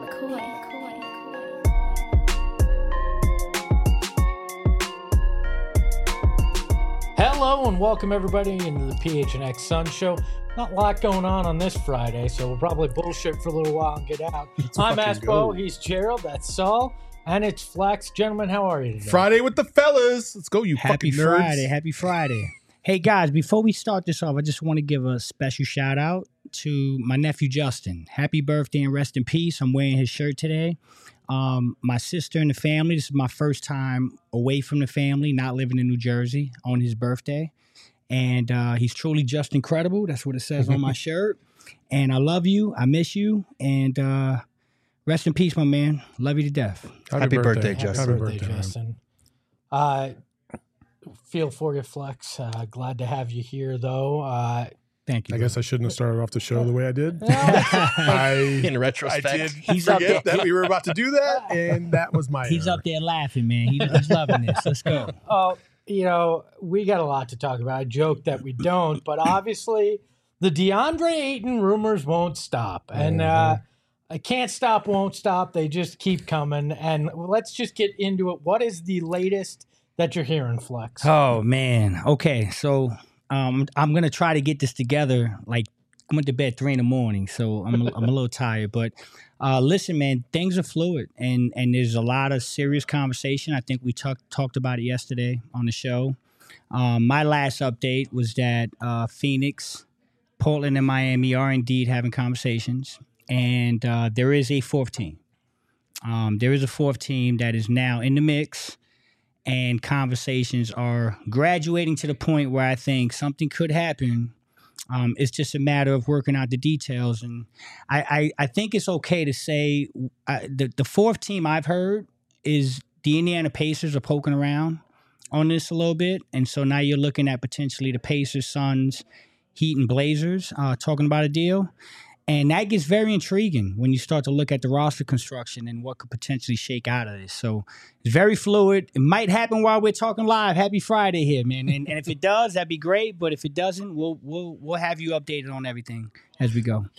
Hello and welcome everybody into the PHNX Sun Show. Not a lot going on this Friday, so we'll probably bullshit for a little while and get out. I'm Aspo, he's Gerald, that's Saul, and it's Flex. Gentlemen, how are you today? Friday with the fellas. Let's go, you Happy fucking nerds. Friday. Happy Friday. Hey, guys, before we start this off, I just want to give a special shout out to my nephew, Justin. Happy birthday and rest in peace. I'm wearing his shirt today. My sister and the family, this is my first time away from the family, not living in New Jersey on his birthday. And he's truly just incredible. That's what it says on my shirt. And I love you. I miss you. And rest in peace, my man. Love you to death. Happy birthday, Justin. Happy birthday, Justin. Feel for you, Flex. Glad to have you here, though. Thank you. I guess I shouldn't have started off the show the way I did. In retrospect, I did He's up forget there. that we were about to do that, and that was my He's error. up there laughing, man. He's loving this. Let's go. Oh, you know, we got a lot to talk about. I joke that we don't, but obviously the DeAndre Ayton rumors won't stop. And I can't stop, won't stop. They just keep coming. And let's just get into it. What is the latest that you're hearing, Flex? Oh, man. Okay, so I'm going to try to get this together. Like, I went to bed 3 a.m, so I'm a little tired. But listen, man, things are fluid, and there's a lot of serious conversation. I think we talked about it yesterday on the show. My last update was that Phoenix, Portland, and Miami are indeed having conversations, and there is a fourth team. There is a fourth team that is now in the mix, and conversations are graduating to the point where I think something could happen. It's just a matter of working out the details. And I think it's okay to say the fourth team I've heard is the Indiana Pacers are poking around on this a little bit. And so now you're looking at potentially the Pacers, Suns, Heat, and Blazers talking about a deal. And that gets very intriguing when you start to look at the roster construction and what could potentially shake out of this. So it's very fluid. It might happen while we're talking live. Happy Friday here, man. And if it does, that'd be great. But if it doesn't, we'll have you updated on everything as we go.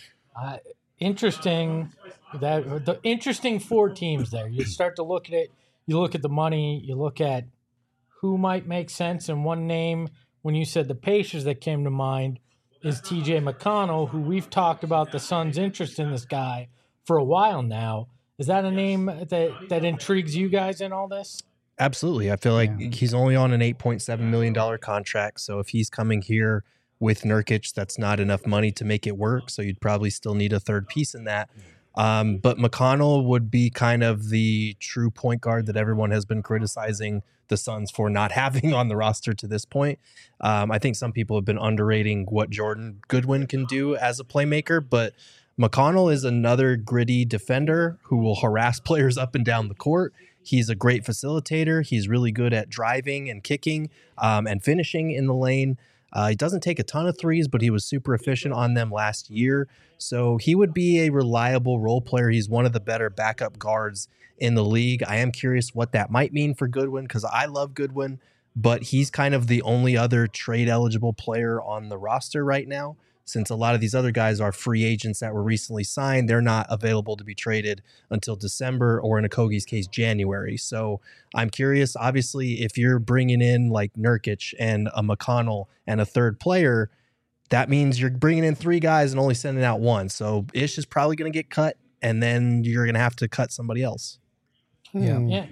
Interesting. The interesting 4 teams there. You start to look at it. You look at the money. You look at who might make sense. And one name, when you said the Pacers, that came to mind is T.J. McConnell, who we've talked about the Suns' interest in this guy for a while now. Is that a name that intrigues you guys in all this? absolutely. I feel like he's only on an $8.7 million contract. So if he's coming here with Nurkic, that's not enough money to make it work. So you'd probably still need a third piece in that. But McConnell would be kind of the true point guard that everyone has been criticizing the Suns for not having on the roster to this point. I think some people have been underrating what Jordan Goodwin can do as a playmaker, but McConnell is another gritty defender who will harass players up and down the court. He's a great facilitator. He's really good at driving and kicking and finishing in the lane. He doesn't take a ton of threes, but he was super efficient on them last year. So he would be a reliable role player. He's one of the better backup guards in the league. I am curious what that might mean for Goodwin because I love Goodwin, but he's kind of the only other trade-eligible player on the roster right now. Since a lot of these other guys are free agents that were recently signed, they're not available to be traded until December or in Okogie's case, January. So I'm curious, obviously, if you're bringing in like Nurkic and a McConnell and a third player, that means you're bringing in 3 guys and only sending out 1. So Ish is probably going to get cut, and then you're going to have to cut somebody else. Yeah.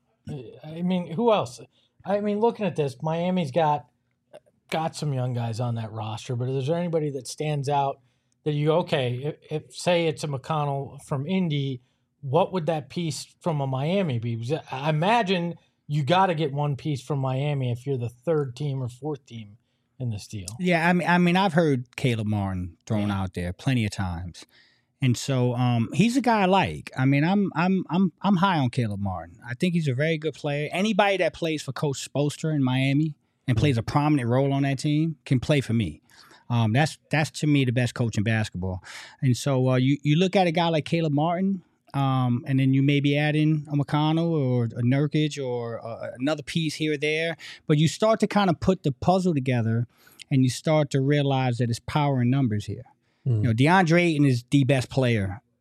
I mean, who else? I mean, looking at this, Miami's got some young guys on that roster, but is there anybody that stands out that you go, okay, if say it's a McConnell from Indy, what would that piece from a Miami be? Because I imagine you got to get one piece from Miami if you're the third team or fourth team in this deal. Yeah, I mean, I've heard Caleb Martin thrown out there plenty of times, and so he's a guy I like. I mean, I'm high on Caleb Martin. I think he's a very good player. Anybody that plays for Coach Spoelstra in Miami and plays a prominent role on that team can play for me. That's to me the best coach in basketball. And so you look at a guy like Caleb Martin, and then you maybe add in a McConnell or a Nurkic or another piece here or there, but you start to kind of put the puzzle together, and you start to realize that it's power in numbers here. You know, DeAndre Ayton is the best player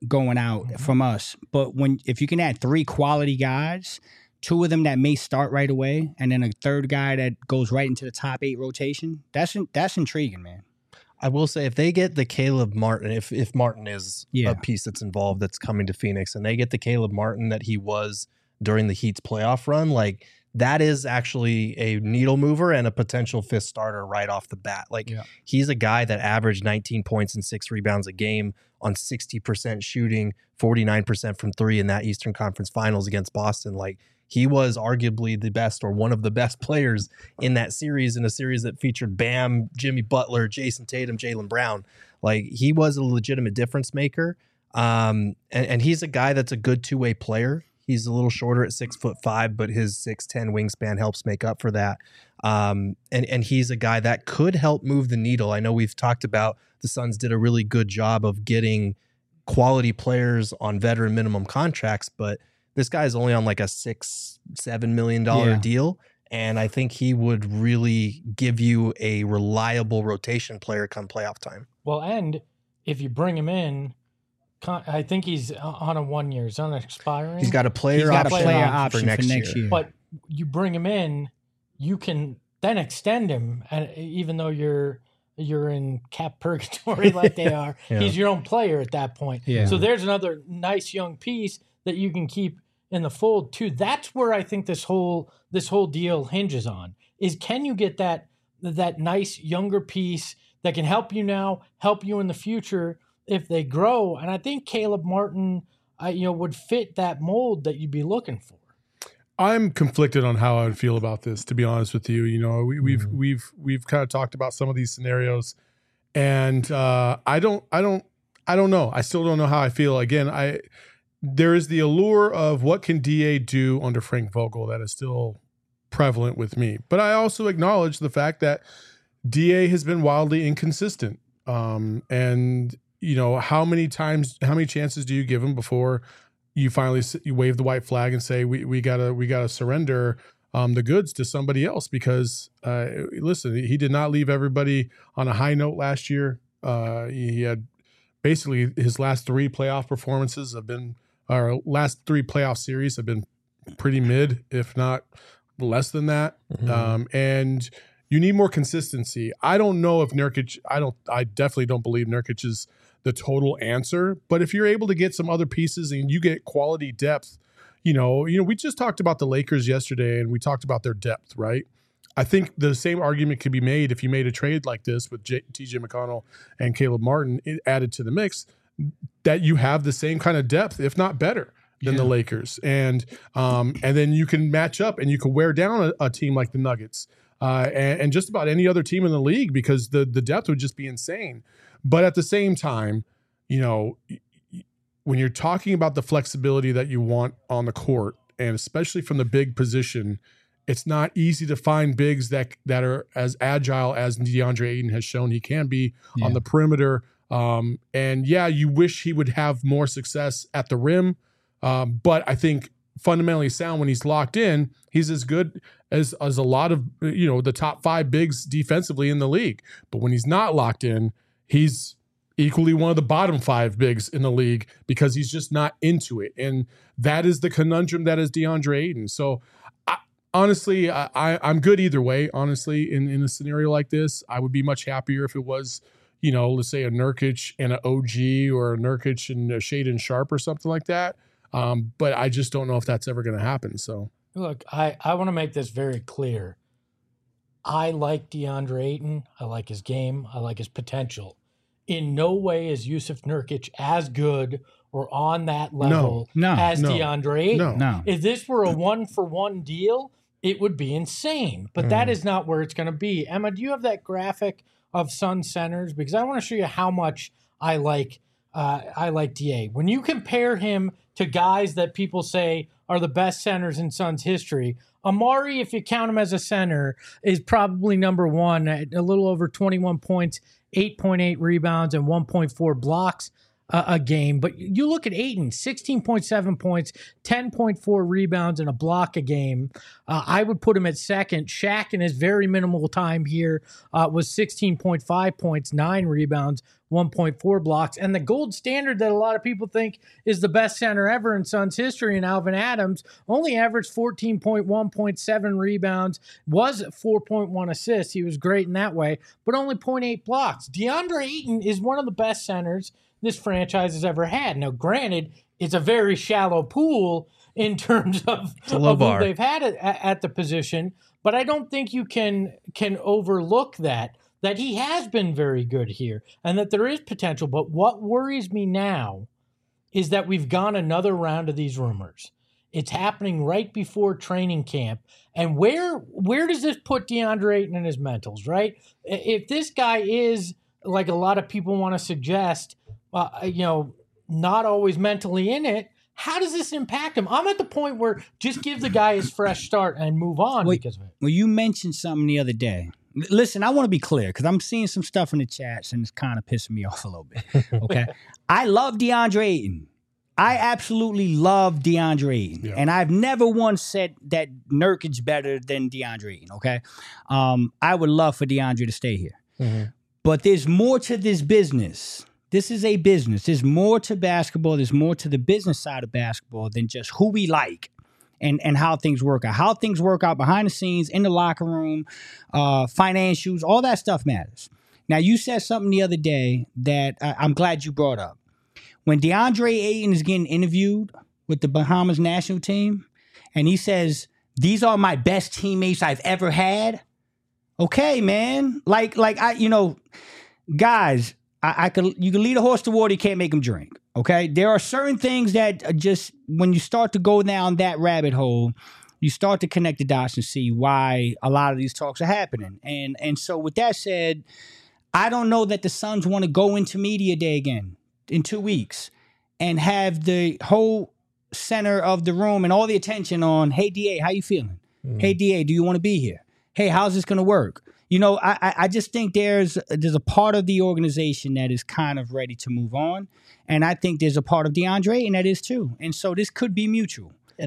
going out from us. But if you can add 3 quality guys, 2 of them that may start right away, and then a third guy that goes right into the top 8 rotation, that's intriguing, man. I will say if they get the Caleb Martin, if Martin is a piece that's involved that's coming to Phoenix, and they get the Caleb Martin that he was during the Heat's playoff run, like that is actually a needle mover and a potential 5th starter right off the bat. Like he's a guy that averaged 19 points and 6 rebounds a game on 60% shooting, 49% from 3 in that Eastern Conference Finals against Boston. Like he was arguably the best or one of the best players in that series, in a series that featured Bam, Jimmy Butler, Jason Tatum, Jaylen Brown. Like he was a legitimate difference maker. And he's a guy that's a good 2-way player. He's a little shorter at 6'5", but his 6'10" wingspan helps make up for that. And he's a guy that could help move the needle. I know we've talked about the Suns did a really good job of getting quality players on veteran minimum contracts, but this guy is only on like a $6-7 million deal. And I think he would really give you a reliable rotation player come playoff time. Well, and if you bring him in, I think he's on a 1 year. He's on expiring. He's got a player option for next year. But you bring him in, you can then extend him, and even though you're in cap purgatory like they are, he's your own player at that point. Yeah. So there's another nice young piece that you can keep in the fold too. That's where I think this whole deal hinges on, is can you get that nice younger piece that can help you now, help you in the future if they grow. And I think Caleb Martin, would fit that mold that you'd be looking for. I'm conflicted on how I would feel about this, to be honest with you. We've kind of talked about some of these scenarios, and I don't know. I still don't know how I feel. Again, there is the allure of what can DA do under Frank Vogel that is still prevalent with me. But I also acknowledge the fact that DA has been wildly inconsistent. And how many chances do you give him before you finally wave the white flag and say we gotta surrender the goods to somebody else? Because listen, he did not leave everybody on a high note last year. He had basically his last 3 playoff performances last 3 playoff series have been pretty mid, if not less than that. And you need more consistency. I don't know if Nurkic. I definitely don't believe Nurkic is the total answer. But if you're able to get some other pieces and you get quality depth, we just talked about the Lakers yesterday, and we talked about their depth, right? I think the same argument could be made if you made a trade like this with TJ McConnell and Caleb Martin added to the mix, that you have the same kind of depth, if not better, than the Lakers. And then you can match up and you can wear down a team like the Nuggets and just about any other team in the league, because the depth would just be insane. But at the same time, when you're talking about the flexibility that you want on the court, and especially from the big position, it's not easy to find bigs that are as agile as DeAndre Ayton has shown he can be on the perimeter. And you wish he would have more success at the rim. But I think fundamentally sound when he's locked in, he's as good as a lot of, the top 5 bigs defensively in the league. But when he's not locked in, he's equally one of the bottom 5 bigs in the league because he's just not into it. And that is the conundrum that is DeAndre Ayton. So honestly, I'm good either way. Honestly, in a scenario like this, I would be much happier if it was, let's say a Nurkic and an OG, or a Nurkic and a Shaedon Sharpe or something like that. But I just don't know if that's ever going to happen. So look, I want to make this very clear. I like DeAndre Ayton. I like his game. I like his potential. In no way is Jusuf Nurkic as good or on that level as DeAndre Ayton. No. If this were a 1-for-1 deal, it would be insane. But that is not where it's going to be. Emma, do you have that graphic of Sun centers? Because I want to show you how much I like DA. When you compare him to guys that people say are the best centers in Suns history, Amari, if you count him as a center, is probably number 1 at a little over 21 points, 8.8 rebounds, and 1.4 blocks a game. But you look at Ayton, 16.7 points, 10.4 rebounds, and a block a game. I would put him at second. Shaq, in his very minimal time here, was 16.5 points, 9 rebounds, 1.4 blocks. And the gold standard that a lot of people think is the best center ever in Suns history, and Alvin Adams, only averaged 14.1.7 rebounds, was 4.1 assists. He was great in that way, but only 0.8 blocks. DeAndre Ayton is one of the best centers this franchise has ever had. Now, granted, it's a very shallow pool in terms of who they've had at the position, but I don't think you can overlook that he has been very good here and that there is potential. But what worries me now is that we've gone another round of these rumors. It's happening right before training camp. And where does this put DeAndre Ayton and his mentals, right? If this guy is, like a lot of people want to suggest, not always mentally in it, how does this impact him? I'm at the point where just give the guy his fresh start and move on because of it. Well, you mentioned something the other day. Listen, I want to be clear because I'm seeing some stuff in the chats and it's kind of pissing me off a little bit. Okay. I love DeAndre Ayton. I absolutely love DeAndre Ayton. Yeah. And I've never once said that Nurkic better than DeAndre Ayton. Okay. I would love for DeAndre to stay here. Mm-hmm. But there's more to this business. This is a business. There's more to basketball. There's more to the business side of basketball than just who we like and how things work out. How things work out behind the scenes, in the locker room, financials, all that stuff matters. Now, you said something the other day that I'm glad you brought up. When DeAndre Ayton is getting interviewed with the Bahamas national team, and he says, "These are my best teammates I've ever had." Okay, man. Guys, you can lead a horse to water, you can't make him drink. Okay? There are certain things that just, when you start to go down that rabbit hole, you start to connect the dots and see why a lot of these talks are happening. And so with that said, I don't know that the Suns want to go into media day again in 2 weeks and have the whole center of the room and all the attention on, "Hey, DA, how you feeling? Hey, DA, do you want to be here? Hey, how's this going to work?" I just think there's a part of the organization that is kind of ready to move on. And I think there's a part of DeAndre and that is too. And so this could be mutual. And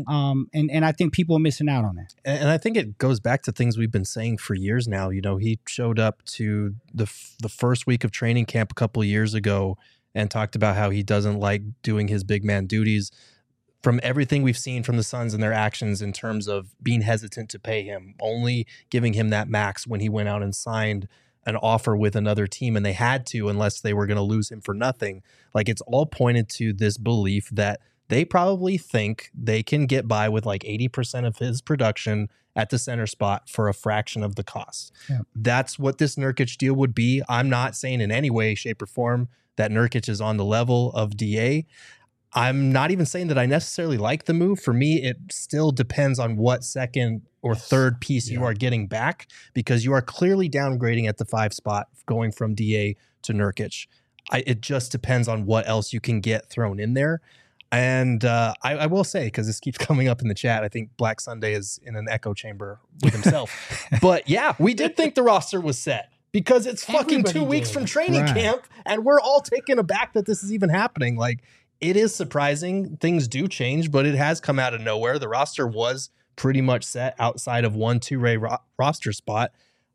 I think people are missing out on that. And I think it goes back to things we've been saying for years now. He showed up to the first week of training camp a couple of years ago and talked about how he doesn't like doing his big man duties. From everything we've seen from the Suns and their actions in terms of being hesitant to pay him, only giving him that max when he went out and signed an offer with another team, and they had to unless they were going to lose him for nothing. Like, it's all pointed to this belief that they probably think they can get by with like 80% of his production at the center spot for a fraction of the cost. Yeah. That's what this Nurkic deal would be. I'm not saying in any way, shape, or form that Nurkic is on the level of DA. I'm not even saying that I necessarily like the move. For me, it still depends on what second or third piece you are getting back, because you are clearly downgrading at the 5 spot going from DA to Nurkic. It just depends on what else you can get thrown in there. And I will say, because this keeps coming up in the chat, I think Black Sunday is in an echo chamber with himself. But yeah, we did think the roster was set, because it's fucking 2 weeks from training camp, and we're all taken aback that this is even happening. Like, it is surprising. Things do change, but it has come out of nowhere. The roster was pretty much set outside of one two-way roster spot.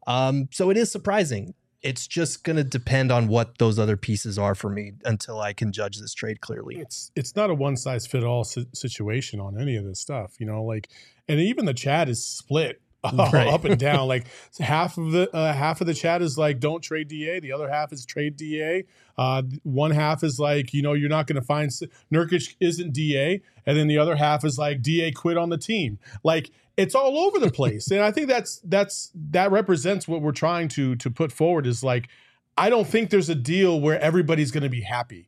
So it is surprising. It's just going to depend on what those other pieces are for me until I can judge this trade clearly. It's not a one-size-fit-all situation on any of this stuff, and even the chat is split. Up and down. Like, half of the chat is like, don't trade DA. The other half is trade DA. One half is like, you're not going to find Nurkic isn't DA, and then the other half is like, DA quit on the team. Like, it's all over the place, and I think that represents what we're trying to put forward. Is like, I don't think there's a deal where everybody's going to be happy.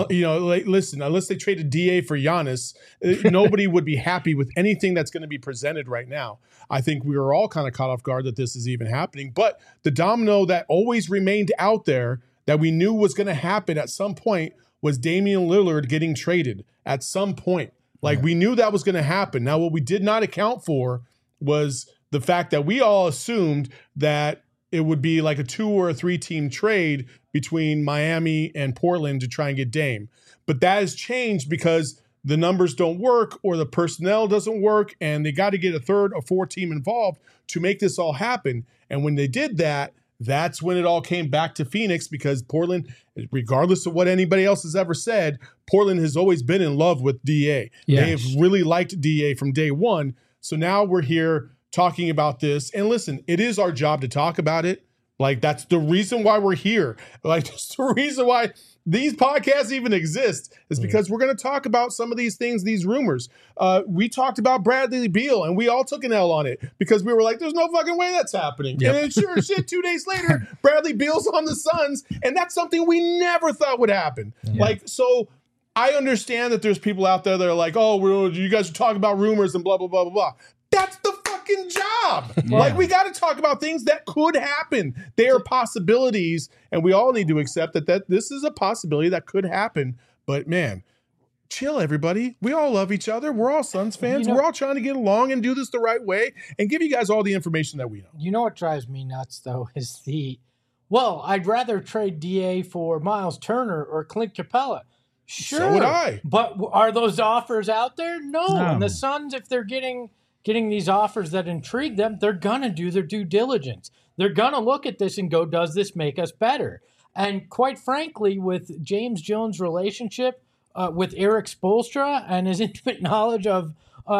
Listen, unless they traded DA for Giannis, nobody would be happy with anything that's going to be presented right now. I think we were all kind of caught off guard that this is even happening. But the domino that always remained out there that we knew was going to happen at some point was Damian Lillard getting traded at some point. We knew that was going to happen. Now, what we did not account for was the fact that we all assumed that it would be like a 2 or a 3 team trade between Miami and Portland to try and get Dame. But that has changed because the numbers don't work or the personnel doesn't work, and they got to get a 3rd or 4th team involved to make this all happen. And when they did that, that's when it all came back to Phoenix, because Portland, regardless of what anybody else has ever said, Portland has always been in love with DA. Yes. They have really liked DA from day one. So now we're here talking about this. And listen, it is our job to talk about it. Like, that's the reason why we're here. Like, that's the reason why these podcasts even exist, is because we're going to talk about some of these things, these rumors. We talked about Bradley Beal, and we all took an L on it because we were like, there's no fucking way that's happening. Yep. And then sure as shit, 2 days later, Bradley Beal's on the Suns, and that's something we never thought would happen. Like, so I understand that there's people out there that are like, oh, you guys are talking about rumors and blah, blah, blah, blah, blah. That's the fucking job. Like, we got to talk about things that could happen. They are possibilities, and we all need to accept that this is a possibility that could happen. But man, chill, everybody. We all love each other. We're all Suns fans. We're all trying to get along and do this the right way and give you guys all the information that we know. You know what drives me nuts, though, is I'd rather trade DA for Miles Turner or Clint Capella. Sure. So would I. But are those offers out there? No. No. And the Suns, if they're getting these offers that intrigue them, they're going to do their due diligence. They're going to look at this and go, does this make us better? And quite frankly, with James Jones' relationship with Eric Spoelstra and his intimate knowledge of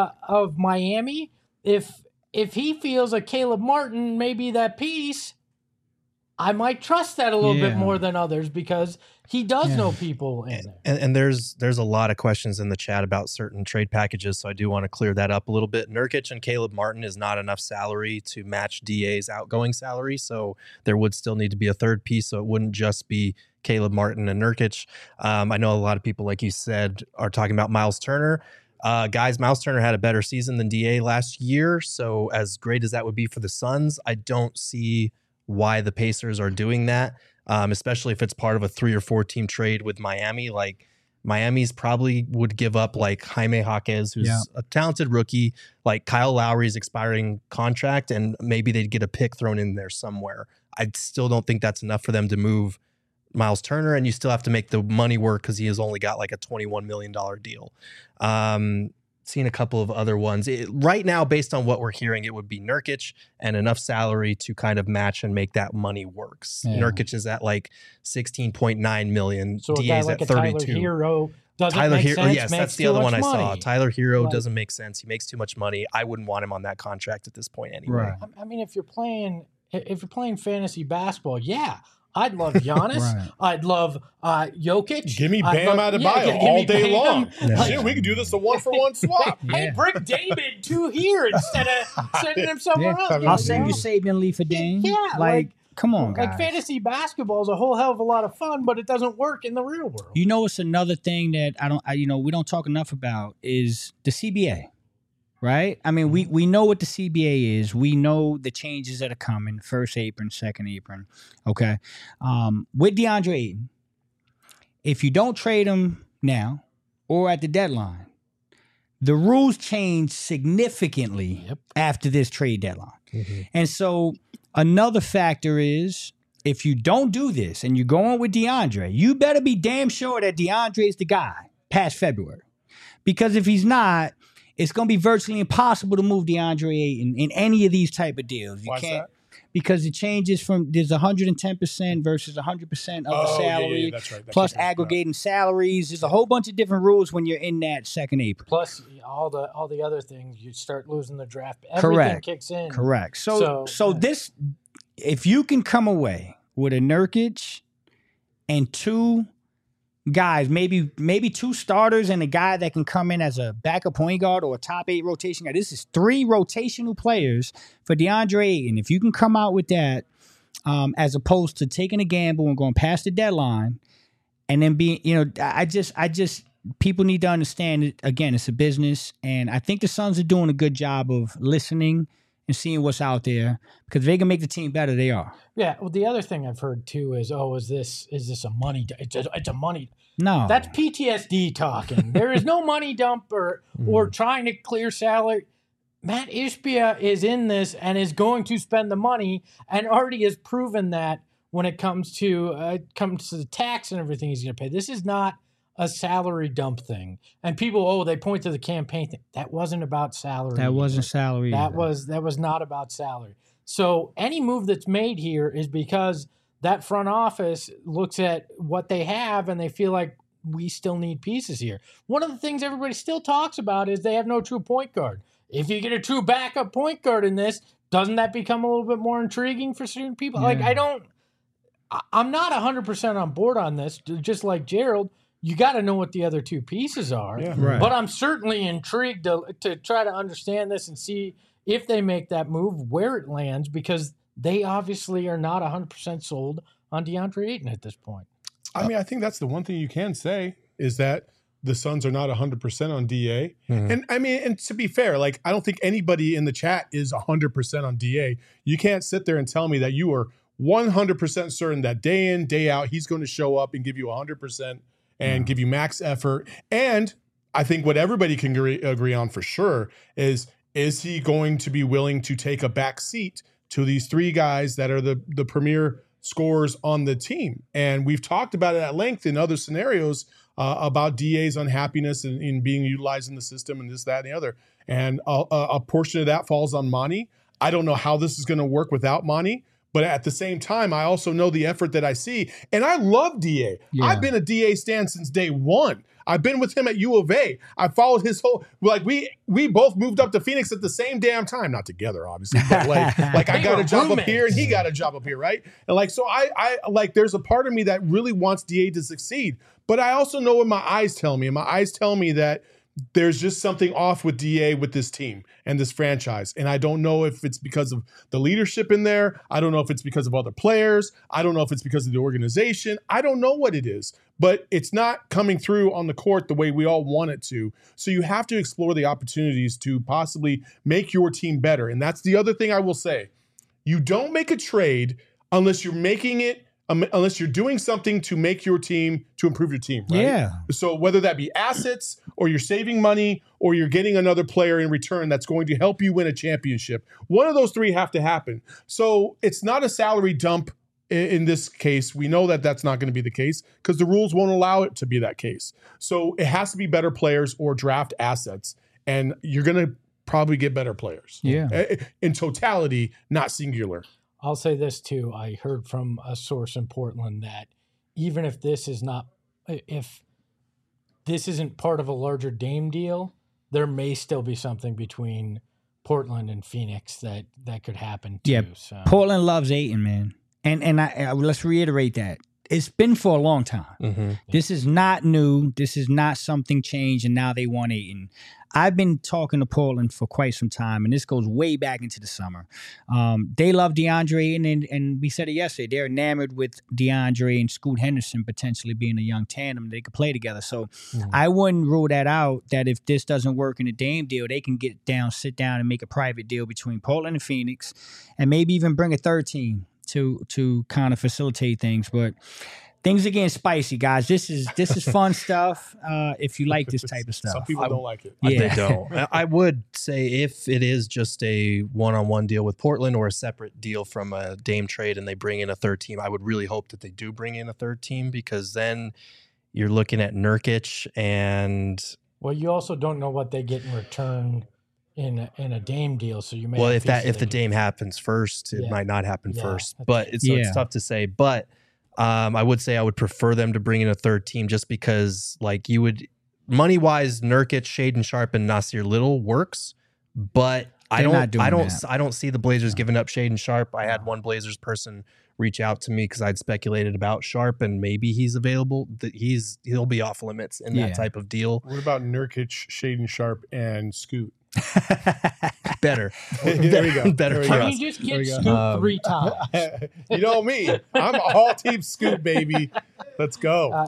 Miami, if he feels like Caleb Martin may be that piece, I might trust that a little bit more than others, because he does know people in there. And there's a lot of questions in the chat about certain trade packages, so I do want to clear that up a little bit. Nurkic and Caleb Martin is not enough salary to match DA's outgoing salary, so there would still need to be a third piece, so it wouldn't just be Caleb Martin and Nurkic. I know a lot of people, like you said, are talking about Miles Turner. Guys, Miles Turner had a better season than DA last year, so as great as that would be for the Suns, I don't see why the Pacers are doing that, especially if it's part of a 3 or 4 team trade with Miami. Like, Miami's probably would give up like Jaime Jaquez, who's a talented rookie, like Kyle Lowry's expiring contract, and maybe they'd get a pick thrown in there somewhere. I still don't think that's enough for them to move Miles Turner, and you still have to make the money work because he has only got like a $21 million deal. Seen a couple of other ones. Right now, based on what we're hearing, it would be Nurkic and enough salary to kind of match and make that money works. Yeah. Nurkic is at like 16.9 million. So DA's like at 32. Tyler Hero doesn't Tyler make Hero, sense. yes, that's the other one I saw. Tyler Hero doesn't make sense. He makes too much money. I wouldn't want him on that contract at this point anyway. Right. I mean, if you're playing fantasy basketball, yeah. I'd love Giannis. Right. I'd love Jokic. Give me Bam Adebayo all day long. Yeah. Shit, we could do this a 1-for-1 swap. Hey, bring David to here instead of sending him somewhere else. I'll send you Sabian Lee for Dame. Yeah, like come on, guys. Like, fantasy basketball is a whole hell of a lot of fun, but it doesn't work in the real world. You know, it's another thing that we don't talk enough about is the CBA. Right? I mean, we know what the CBA is. We know the changes that are coming, first apron, second apron. Okay. With DeAndre Ayton, if you don't trade him now or at the deadline, the rules change significantly after this trade deadline. Mm-hmm. And so another factor is, if you don't do this and you're going with DeAndre, you better be damn sure that DeAndre is the guy past February. Because if he's not, it's going to be virtually impossible to move DeAndre Ayton in any of these type of deals. You can't, because it changes from, there's 110% versus 100% of the salary, that's right. plus aggregating salaries. There's a whole bunch of different rules when you're in that second apron. Plus all the other things, you start losing the draft. Everything kicks in. Correct. So this, if you can come away with a Nurkic and 2 guys, maybe 2 starters and a guy that can come in as a backup point guard or a top 8 rotation guy. This is 3 rotational players for DeAndre Ayton. If you can come out with that, as opposed to taking a gamble and going past the deadline, and then being, I just people need to understand it. Again, it's a business, and I think the Suns are doing a good job of listening and seeing what's out there, because if they can make the team better, they are. Yeah. Well, the other thing I've heard too is, is this a money? It's a money. No, that's PTSD talking. There is no money dump or trying to clear salary. Matt Ishbia is in this and is going to spend the money, and already has proven that when it comes to the tax and everything he's going to pay. This is not a salary dump thing. And people, they point to the campaign thing. That wasn't about salary. That wasn't salary. That was not about salary. So any move that's made here is because that front office looks at what they have and they feel like we still need pieces here. One of the things everybody still talks about is they have no true point guard. If you get a true backup point guard in this, doesn't that become a little bit more intriguing for certain people? Yeah. Like, I'm not 100% on board on this. Just like Gerald, you got to know what the other two pieces are. Yeah. Right. But I'm certainly intrigued to try to understand this and see if they make that move, where it lands, because they obviously are not 100% sold on DeAndre Ayton at this point. I mean, I think that's the one thing you can say is that the Suns are not 100% on DA. And I mean, and to be fair, like, I don't think anybody in the chat is 100% on DA. You can't sit there and tell me that you are 100% certain that day in, day out, he's going to show up and give you 100% and give you max effort. And I think what everybody can agree on for sure is he going to be willing to take a back seat to these three guys that are the premier scorers on the team? And we've talked about it at length in other scenarios about DA's unhappiness in being utilized in the system and this, that, and the other. And a portion of that falls on Monty. I don't know how this is going to work without Monty, but at the same time, I also know the effort that I see. And I love DA. Yeah. I've been a DA stan since day one. I've been with him at U of A. I followed his whole, like, we both moved up to Phoenix at the same damn time. Not together, obviously, but like I got a job up here and he got a job up here, right? And like, so I like, there's a part of me that really wants DA to succeed, but I also know what my eyes tell me. And my eyes tell me that there's just something off with DA with this team and this franchise. And I don't know if it's because of the leadership in there. I don't know if it's because of other players. I don't know if it's because of the organization. I don't know what it is, but it's not coming through on the court the way we all want it to. So you have to explore the opportunities to possibly make your team better. And that's the other thing I will say. You don't make a trade unless you're making it, unless you're doing something to make your team, to improve your team, right? Yeah. So whether that be assets or you're saving money or you're getting another player in return that's going to help you win a championship, one of those three have to happen. So it's not a salary dump in this case. We know that that's not going to be the case because the rules won't allow it to be that case. So it has to be better players or draft assets, and you're going to probably get better players. Yeah. In totality, not singular. I'll say this too. I heard from a source in Portland that even if this isn't part of a larger Dame deal, there may still be something between Portland and Phoenix that could happen too. Yeah. So. Portland loves Ayton, man. And I let's reiterate that. It's been for a long time. Mm-hmm. This is not new. This is not something changed and now they want Ayton. I've been talking to Portland for quite some time, and this goes way back into the summer. They love DeAndre Ayton, and we said it yesterday. They're enamored with DeAndre and Scoot Henderson potentially being a young tandem. They could play together. So I wouldn't rule that out, that if this doesn't work in a Dame deal, they can sit down and make a private deal between Portland and Phoenix and maybe even bring a third team to kind of facilitate things. But things are getting spicy, guys. This is fun stuff. If you like this type of stuff, Some people don't like it. Yeah. They don't. I would say if it is just a one-on-one deal with Portland or a separate deal from a Dame trade and they bring in a third team, I would really hope that they do bring in a third team, because then you're looking at Nurkic and... Well, you also don't know what they get in return in a Dame deal, so you may. Well, if the Dame happens first, it might not happen first. But it's tough to say. But I would say I would prefer them to bring in a third team, just because, like, you would money wise, Nurkic, Shaedon Sharpe, and Nasir Little works, but I don't see the Blazers giving up Shaedon Sharpe. I had one Blazers person reach out to me because I'd speculated about Sharpe and maybe he's available. He'll be off limits in that type of deal. What about Nurkic, Shaedon Sharpe, and Scoot? Better. There we go. Better. How do you just get Scoot 3 times? You know me. I'm all team Scoot, baby. Let's go.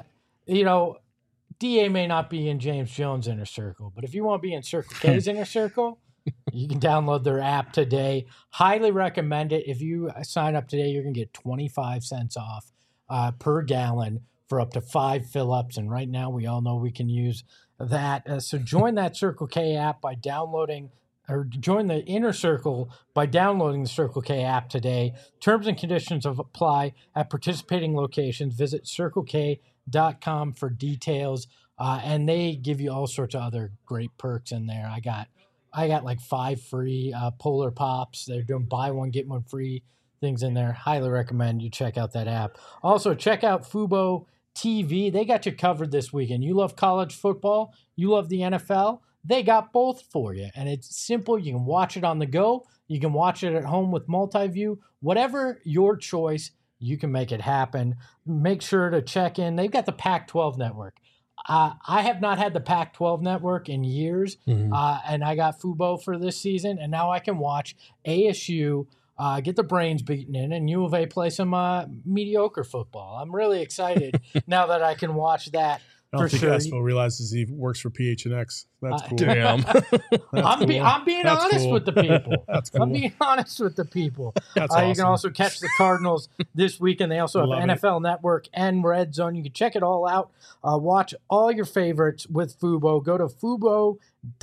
DA may not be in James Jones' inner circle, but if you want to be in Circle K's inner circle, you can download their app today. Highly recommend it. If you sign up today, you're going to get 25 cents off per gallon for up to 5 fill-ups. And right now, we all know we can use that. So join that Circle K app by downloading, or join the inner circle by downloading the Circle K app today. Terms and conditions apply at participating locations. Visit CircleK.com for details. And they give you all sorts of other great perks in there. I got I got like 5 free Polar Pops. They're doing buy one, get one free things in there. Highly recommend you check out that app. Also, check out Fubo TV. They got you covered this weekend. You love college football, you love the NFL, they got both for you. And it's simple. You can watch it on the go. You can watch it at home with multi-view. Whatever your choice, you can make it happen. Make sure to check in. They've got the Pac-12 network. I have not had the Pac-12 network in years, and I got Fubo for this season, and now I can watch ASU get the brains beaten in, and U of A play some mediocre football. I'm really excited now that I can watch that. I don't think Espo realizes he works for PHNX. That's cool. Damn. I'm being honest with the people. That's cool. I'm being honest with the people. That's awesome. You can also catch the Cardinals this weekend. They also have NFL Network and Red Zone. You can check it all out. Watch all your favorites with Fubo. Go to Fubo.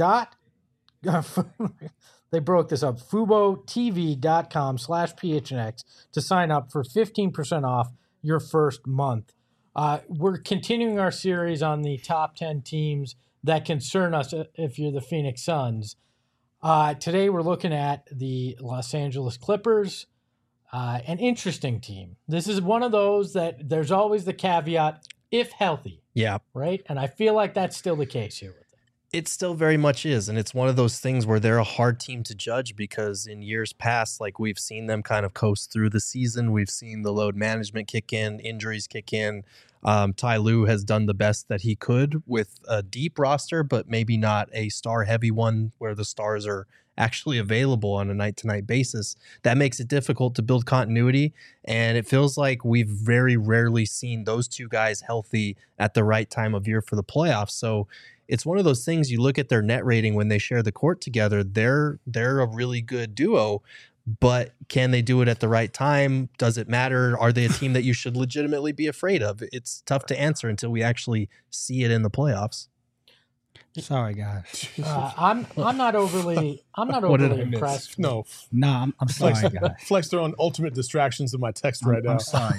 They broke this up. FuboTV.com/PHNX to sign up for 15% off your first month. We're continuing our series on the top 10 teams that concern us if you're the Phoenix Suns. Today we're looking at the Los Angeles Clippers, an interesting team. This is one of those that there's always the caveat, if healthy. Yeah. Right? And I feel like that's still the case here with them. It still very much is. And it's one of those things where they're a hard team to judge because in years past, like we've seen them kind of coast through the season. We've seen the load management kick in, injuries kick in. Ty Lue has done the best that he could with a deep roster, but maybe not a star-heavy one where the stars are actually available on a night-to-night basis. That makes it difficult to build continuity, and it feels like we've very rarely seen those two guys healthy at the right time of year for the playoffs. So it's one of those things, you look at their net rating when they share the court together, they're a really good duo. But can they do it at the right time? Does it matter? Are they a team that you should legitimately be afraid of? It's tough to answer until we actually see it in the playoffs. Sorry, guys. I'm not overly impressed. No, I'm sorry, guys. Flex their own ultimate distractions in my text right now. I'm sorry.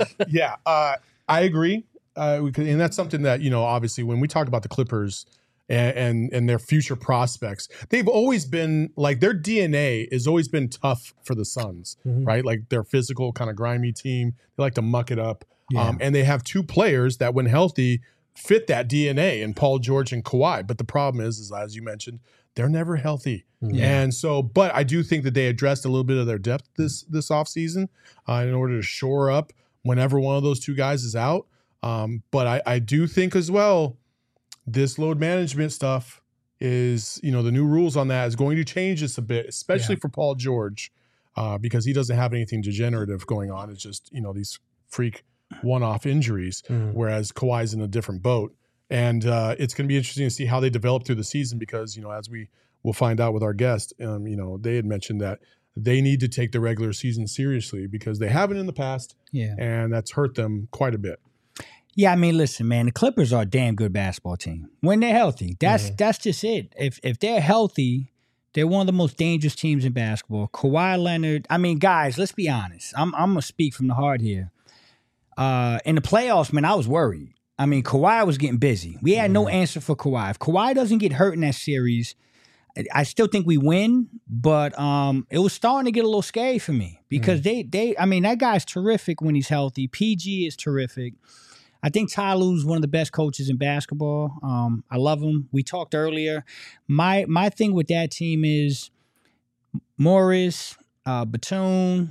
I agree. And that's something that, obviously when we talk about the Clippers and their future prospects, they've always been like, their DNA has always been tough for the Suns, right? Like they're physical, kind of grimy team. They like to muck it up. Yeah. And they have two players that when healthy fit that DNA in Paul George and Kawhi. But the problem is as you mentioned, they're never healthy. Yeah. And so, but I do think that they addressed a little bit of their depth this offseason in order to shore up whenever one of those two guys is out. But I do think as well, this load management stuff is, the new rules on that is going to change this a bit, especially for Paul George, because he doesn't have anything degenerative going on. It's just, these freak one-off injuries, whereas Kawhi's in a different boat. And it's going to be interesting to see how they develop through the season because, as we will find out with our guest, they had mentioned that they need to take the regular season seriously because they haven't in the past, and that's hurt them quite a bit. Yeah, I mean, listen, man, the Clippers are a damn good basketball team when they're healthy. That's just it. If they're healthy, they're one of the most dangerous teams in basketball. Kawhi Leonard, I mean, guys, let's be honest. I'm gonna speak from the heart here. In the playoffs, man, I was worried. I mean, Kawhi was getting busy. We had no answer for Kawhi. If Kawhi doesn't get hurt in that series, I still think we win, but it was starting to get a little scary for me because I mean, that guy's terrific when he's healthy. PG is terrific. I think Ty Lue's one of the best coaches in basketball. I love him. We talked earlier. My thing with that team is Morris, Batum,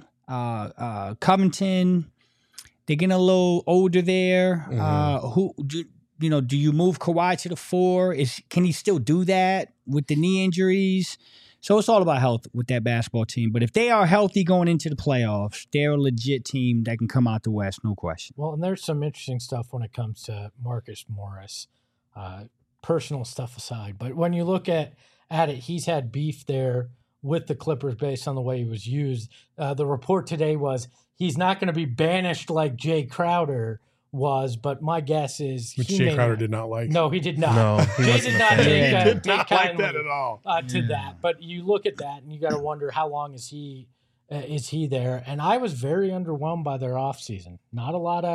Covington. They're getting a little older there. Do you move Kawhi to the 4? Can he still do that with the knee injuries? So it's all about health with that basketball team. But if they are healthy going into the playoffs, they're a legit team that can come out the West, no question. Well, and there's some interesting stuff when it comes to Marcus Morris, personal stuff aside. But when you look at it, he's had beef there with the Clippers based on the way he was used. The report today was he's not going to be banished like Jay Crowder was, but my guess is which Jay Crowder did not like. No, he did not. No, Jay did not take like that at all to that. But you look at that and you got to wonder how long is he there? And I was very underwhelmed by their offseason. Not a lot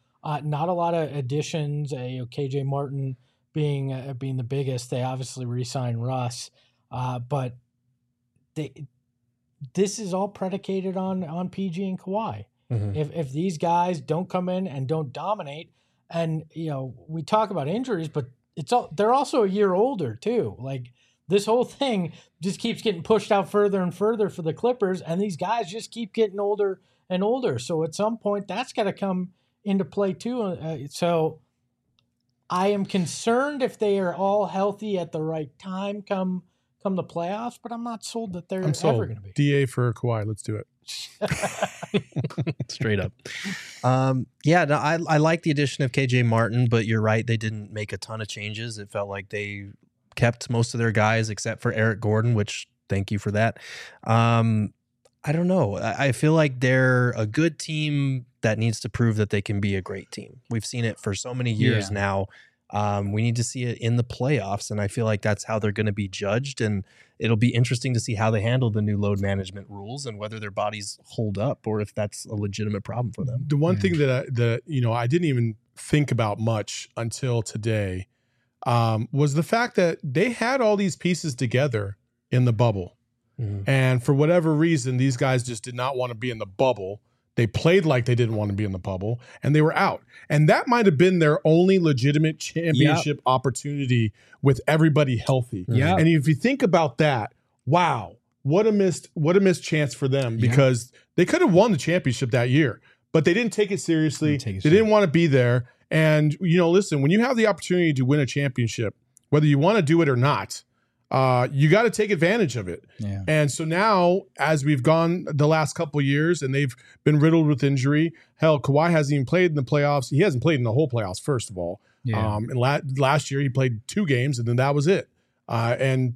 of additions. KJ Martin being the biggest. They obviously re-signed Russ. But this is all predicated on PG and Kawhi. Mhm. If these guys don't come in and don't dominate, and we talk about injuries, but they're also a year older too. Like this whole thing just keeps getting pushed out further and further for the Clippers, and these guys just keep getting older and older. So at some point, that's got to come into play too. So I am concerned if they are all healthy at the right time come the playoffs, but I'm not sold that they're I'm ever sold. going to be. DA for Kawhi. Let's do it. Straight up. I like the addition of KJ Martin, but you're right. They didn't make a ton of changes. It felt like they kept most of their guys except for Eric Gordon, which thank you for that. I don't know. I feel like they're a good team that needs to prove that they can be a great team. We've seen it for so many years now. We need to see it in the playoffs, and I feel like that's how they're going to be judged. And it'll be interesting to see how they handle the new load management rules and whether their bodies hold up or if that's a legitimate problem for them. The one thing that I didn't even think about much until today was the fact that they had all these pieces together in the bubble. Mhm. And for whatever reason, these guys just did not want to be in the bubble. They played like they didn't want to be in the bubble, and they were out. And that might have been their only legitimate championship opportunity with everybody healthy. Yeah. And if you think about that, wow, what a missed chance for them, because they could have won the championship that year, but they didn't take it seriously. They didn't want to be there. And, listen, when you have the opportunity to win a championship, whether you want to do it or not, you got to take advantage of it. Yeah. And so now, as we've gone the last couple of years and they've been riddled with injury, hell, Kawhi hasn't even played in the playoffs. He hasn't played in the whole playoffs, first of all. Yeah. And last year he played 2 games and then that was it. And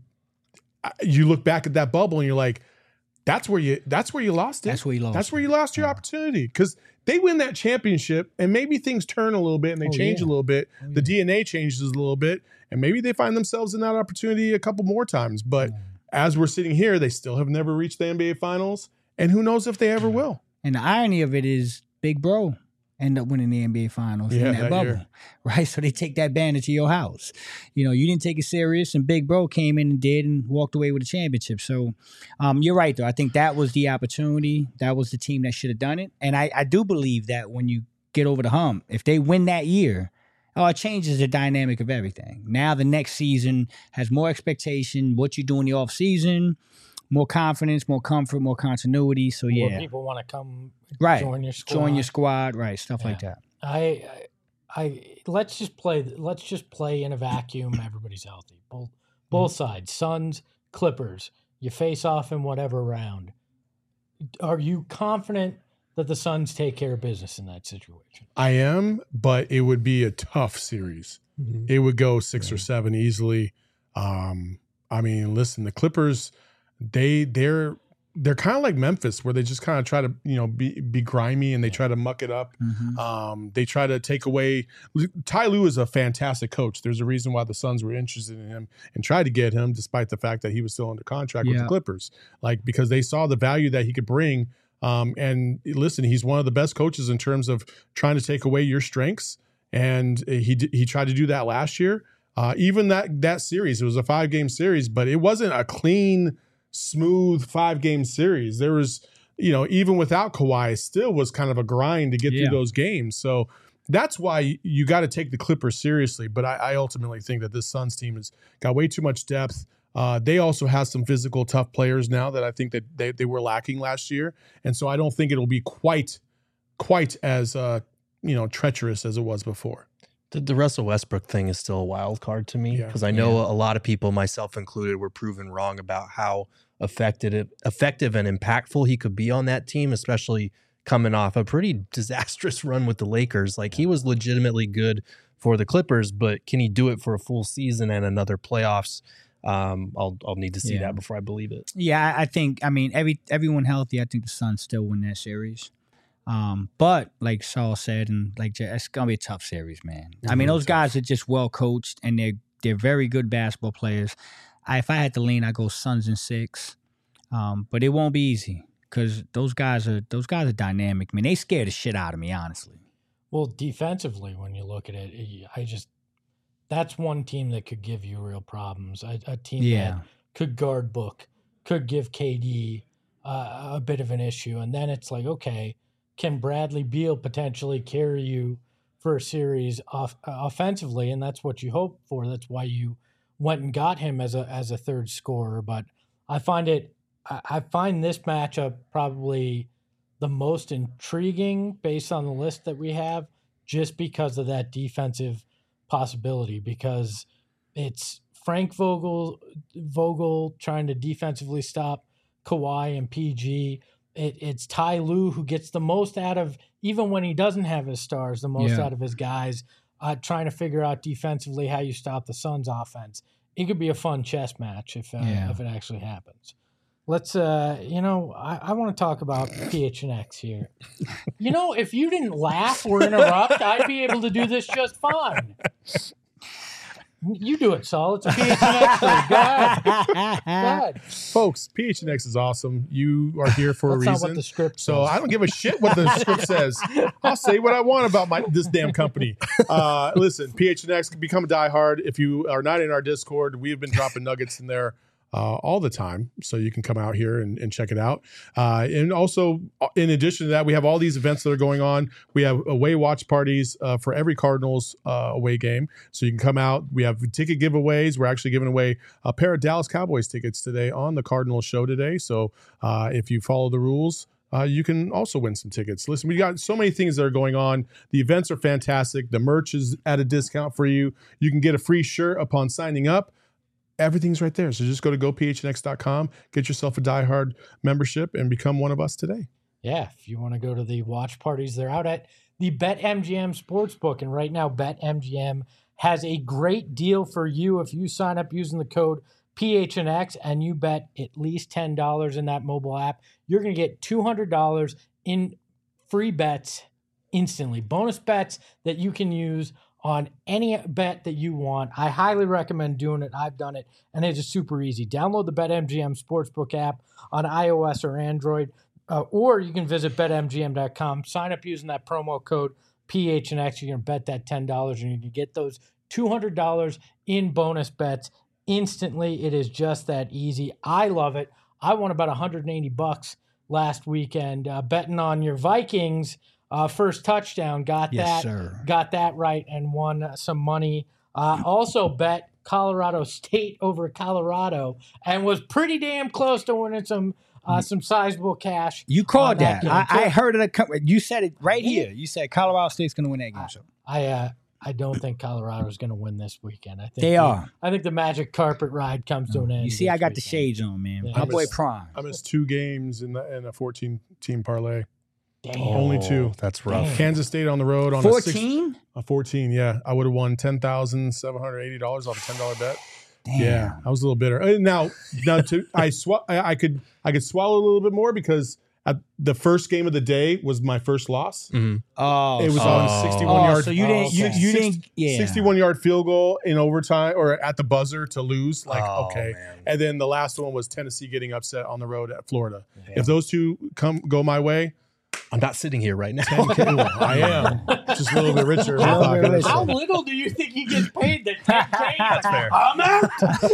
you look back at that bubble and you're like, that's where you lost it. That's where you lost. That's where you lost your opportunity, because they win that championship and maybe things turn a little bit and they change a little bit. The DNA changes a little bit and maybe they find themselves in that opportunity a couple more times. But as we're sitting here, they still have never reached the NBA Finals, and who knows if they ever will. And the irony of it is Big Bro end up winning the NBA Finals in that bubble, year. right? So they take that banner to your house. You didn't take it serious, and Big Bro came in and did and walked away with a championship. So you're right, though. I think that was the opportunity. That was the team that should have done it. And I do believe that when you get over the hump, if they win that year, it changes the dynamic of everything. Now the next season has more expectation, what you do in the offseason, more confidence, more comfort, more continuity. So More people want to come join your squad. Join your squad, right? Stuff like that. Let's just play in a vacuum. Everybody's healthy. Both sides, Suns, Clippers. You face off in whatever round. Are you confident that the Suns take care of business in that situation? I am, but it would be a tough series. Mhm. It would go 6 or 7 easily. Listen, the Clippers, they're kind of like Memphis, where they just kind of try to be grimy and they try to muck it up. Mm-hmm. They try to take away. Ty Lue is a fantastic coach. There's a reason why the Suns were interested in him and tried to get him, despite the fact that he was still under contract with the Clippers, because they saw the value that he could bring. And listen, he's one of the best coaches in terms of trying to take away your strengths. And he tried to do that last year. Even that series, it was a 5-game series, but it wasn't a clean, smooth 5-game series. There was, even without Kawhi, it still was kind of a grind to get through those games. So that's why you got to take the Clippers seriously. But I ultimately think that this Suns team has got way too much depth. They also have some physical, tough players now that I think that they were lacking last year. And so I don't think it'll be quite as treacherous as it was before. The Russell Westbrook thing is still a wild card to me, because I know a lot of people, myself included, were proven wrong about how effective and impactful he could be on that team, especially coming off a pretty disastrous run with the Lakers. Like, he was legitimately good for the Clippers, but can he do it for a full season and another playoffs? I'll need to see that before I believe it. Yeah, I think, everyone healthy, I think the Suns still win that series. But like Saul said, and like it's gonna be a tough series, man. Those guys are just well coached and they're very good basketball players. If I had to lean, I'd go Suns in 6. But it won't be easy because those guys are dynamic. They scare the shit out of me, honestly. Well, defensively, when you look at it, that's one team that could give you real problems. A team that could guard Book, could give KD a bit of an issue. And then it's like, okay, can Bradley Beal potentially carry you for a series offensively? And that's what you hope for. That's why you went and got him as a third scorer. But I find this matchup probably the most intriguing based on the list that we have, just because of that defensive possibility, because it's Frank Vogel trying to defensively stop Kawhi and PG. It's Ty Lue who gets the most out of, even when he doesn't have his stars, the most out of his guys, trying to figure out defensively how you stop the Suns' offense. It could be a fun chess match if it actually happens. Let's, I want to talk about PHNX here. If you didn't laugh or interrupt, I'd be able to do this just fine. You do it, Saul. It's a PHNX. Go ahead. Folks, PHNX is awesome. You are here for a reason. That's not what the script says. So I don't give a shit what the script says. I'll say what I want about this damn company. Listen, PHNX, become a diehard. If you are not in our Discord, we have been dropping nuggets in there all the time, so you can come out here and check it out. And also, in addition to that, we have all these events that are going on. We have away watch parties for every Cardinals away game, so you can come out. We have ticket giveaways. We're actually giving away a pair of Dallas Cowboys tickets today on the Cardinals show today. So if you follow the rules, you can also win some tickets. Listen, we got so many things that are going on. The events are fantastic. The merch is at a discount for you. You can get a free shirt upon signing up. Everything's right there. So just go to gophnx.com, get yourself a diehard membership, and become one of us today. Yeah, if you want to go to the watch parties, they're out at the BetMGM Sportsbook. And right now, BetMGM has a great deal for you. If you sign up using the code PHNX and you bet at least $10 in that mobile app, you're going to get $200 in free bets instantly. Bonus bets that you can use on any bet that you want. I highly recommend doing it. I've done it, and it is super easy. Download the BetMGM Sportsbook app on iOS or Android, or you can visit betmgm.com. Sign up using that promo code PHNX. You're going to bet that $10, and you can get those $200 in bonus bets instantly. It is just that easy. I love it. I won about $180 last weekend betting on your Vikings. First touchdown, got that right, and won some money. Also bet Colorado State over Colorado, and was pretty damn close to winning some sizable cash. You called that. I heard it. You said it right here. You said Colorado State's going to win that game. So I don't think Colorado's going to win this weekend. I think they are. I think the magic carpet ride comes to an end. You see, I got the shades on, man. My boy Prime. I missed 2 games in a 14-team parlay. Damn. Only 2. That's rough. Damn. Kansas State on the road on 14? a 14. Yeah, I would have won $10,780 off a $10 bet. Damn. Yeah, I was a little bitter. I could swallow a little bit more because at the first game of the day was my first loss. Mm-hmm. Oh, it was on 61 yards. So you didn't. You didn't. Yeah. 61-yard field goal in overtime or at the buzzer to lose. Okay. Man. And then the last one was Tennessee getting upset on the road at Florida. Yeah. If those two go my way, I'm not sitting here right now. I am. Just a little bit richer. How little do you think he gets paid? That $10K? That's fair. I'm out.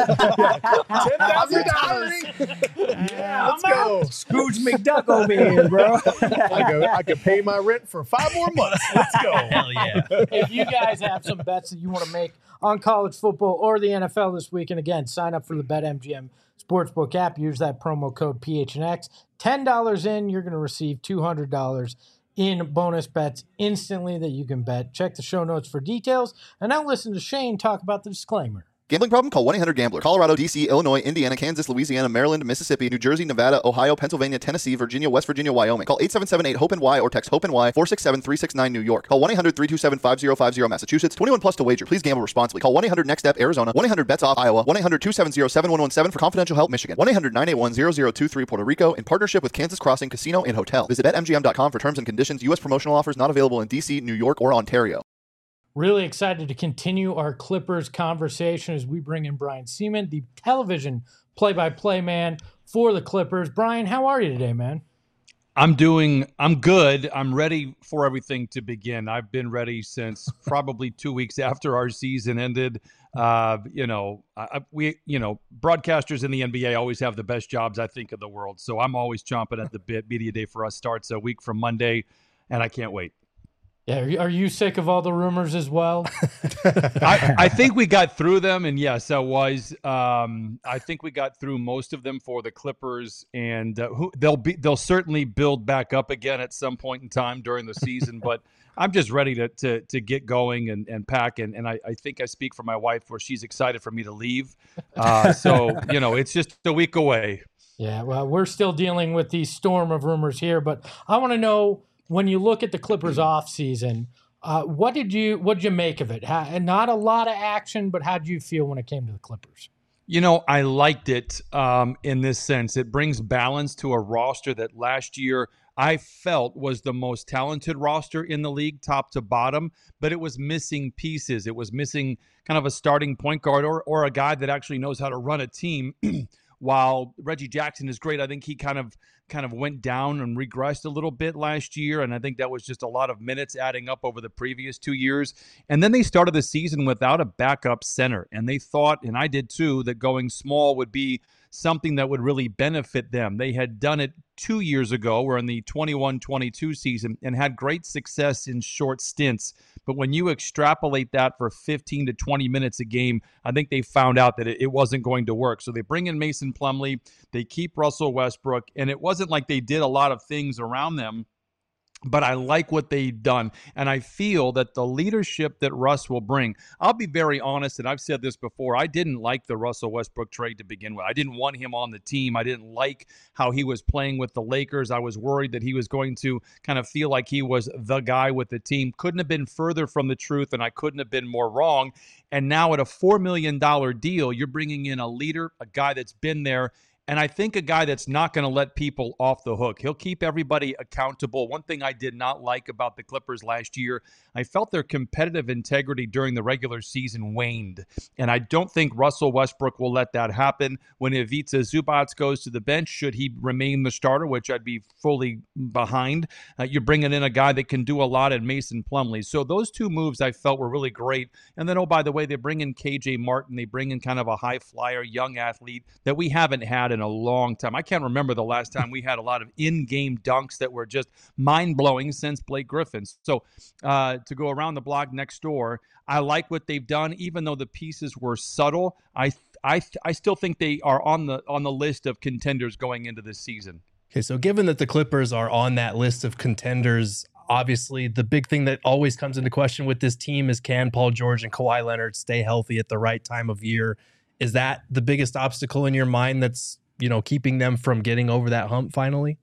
$10,000. Yeah, let's go. Scrooge McDuck over here, bro. I could pay my rent for 5 more months. Let's go. Hell yeah. If you guys have some bets that you want to make on college football or the NFL this week, and again, sign up for the BetMGM Sportsbook app. Use that promo code PHNX. $10 in, you're going to receive $200 in bonus bets instantly that you can bet. Check the show notes for details. And now listen to Shane talk about the disclaimer. Gambling problem? Call 1-800-GAMBLER. Colorado, D.C., Illinois, Indiana, Kansas, Louisiana, Maryland, Mississippi, New Jersey, Nevada, Ohio, Pennsylvania, Tennessee, Virginia, West Virginia, Wyoming. Call 877-8-HOPE-NY or text HOPE-NY 467-369 New York. Call 1-800-327-5050 Massachusetts. 21 plus to wager. Please gamble responsibly. Call 1-800-NEXT-STEP Arizona. 1-800-BETS-OFF Iowa. 1-800-270-7117 for confidential help Michigan. 1-800-981-0023 Puerto Rico in partnership with Kansas Crossing Casino and Hotel. Visit BetMGM.com for terms and conditions. U.S. promotional offers not available in D.C., New York, or Ontario. Really excited to continue our Clippers conversation as we bring in Brian Seaman, the television play-by-play man for the Clippers. Brian, how are you today, man? I'm good. I'm ready for everything to begin. I've been ready since probably 2 weeks after our season ended. Broadcasters in the NBA always have the best jobs, I think, in the world. So I'm always chomping at the bit. Media day for us starts a week from Monday, and I can't wait. Yeah, are you sick of all the rumors as well? I think we got through them, and yes, I was. I think we got through most of them for the Clippers, and they'll certainly build back up again at some point in time during the season. But I'm just ready to get going and pack, and I think I speak for my wife where she's excited for me to leave. So it's just a week away. Yeah, well, we're still dealing with the storm of rumors here, but I want to know, when you look at the Clippers off season, what'd you make of it? And not a lot of action, but how did you feel when it came to the Clippers? I liked it in this sense. It brings balance to a roster that last year I felt was the most talented roster in the league, top to bottom, but it was missing pieces. It was missing kind of a starting point guard or a guy that actually knows how to run a team. While Reggie Jackson is great, I think he kind of went down and regressed a little bit last year, and I think that was just a lot of minutes adding up over the previous 2 years. And then they started the season without a backup center, and they thought, and I did too, that going small would be something that would really benefit them. They had done it 2 years ago, or in the 21-22 season, and had great success in short stints. But when you extrapolate that for 15 to 20 minutes a game, I think they found out that it wasn't going to work. So they bring in Mason Plumlee, they keep Russell Westbrook, and it wasn't like they did a lot of things around them. But I like what they've done, and I feel that the leadership that Russ will bring, I'll be very honest, and I've said this before, I didn't like the Russell Westbrook trade to begin with. I didn't want him on the team. I didn't like how he was playing with the Lakers. I was worried that he was going to kind of feel like he was the guy with the team. Couldn't have been further from the truth, and I couldn't have been more wrong. And now at a $4 million deal, you're bringing in a leader, a guy that's been there, and I think a guy that's not going to let people off the hook. He'll keep everybody accountable. One thing I did not like about the Clippers last year, I felt their competitive integrity during the regular season waned. And I don't think Russell Westbrook will let that happen. When Ivica Zubac goes to the bench, should he remain the starter, which I'd be fully behind, you're bringing in a guy that can do a lot in Mason Plumlee. So those two moves I felt were really great. And then, oh, by the way, they bring in KJ Martin. They bring in kind of a high flyer, young athlete that we haven't had in a long time. I can't remember the last time we had a lot of in-game dunks that were just mind-blowing since Blake Griffin. So to go around the block next door, I like what they've done, even though the pieces were subtle. I still think they are on the list of contenders going into this season. Okay, so given that the Clippers are on that list of contenders, obviously the big thing that always comes into question with this team is, can Paul George and Kawhi Leonard stay healthy at the right time of year? Is that the biggest obstacle in your mind that's keeping them from getting over that hump finally?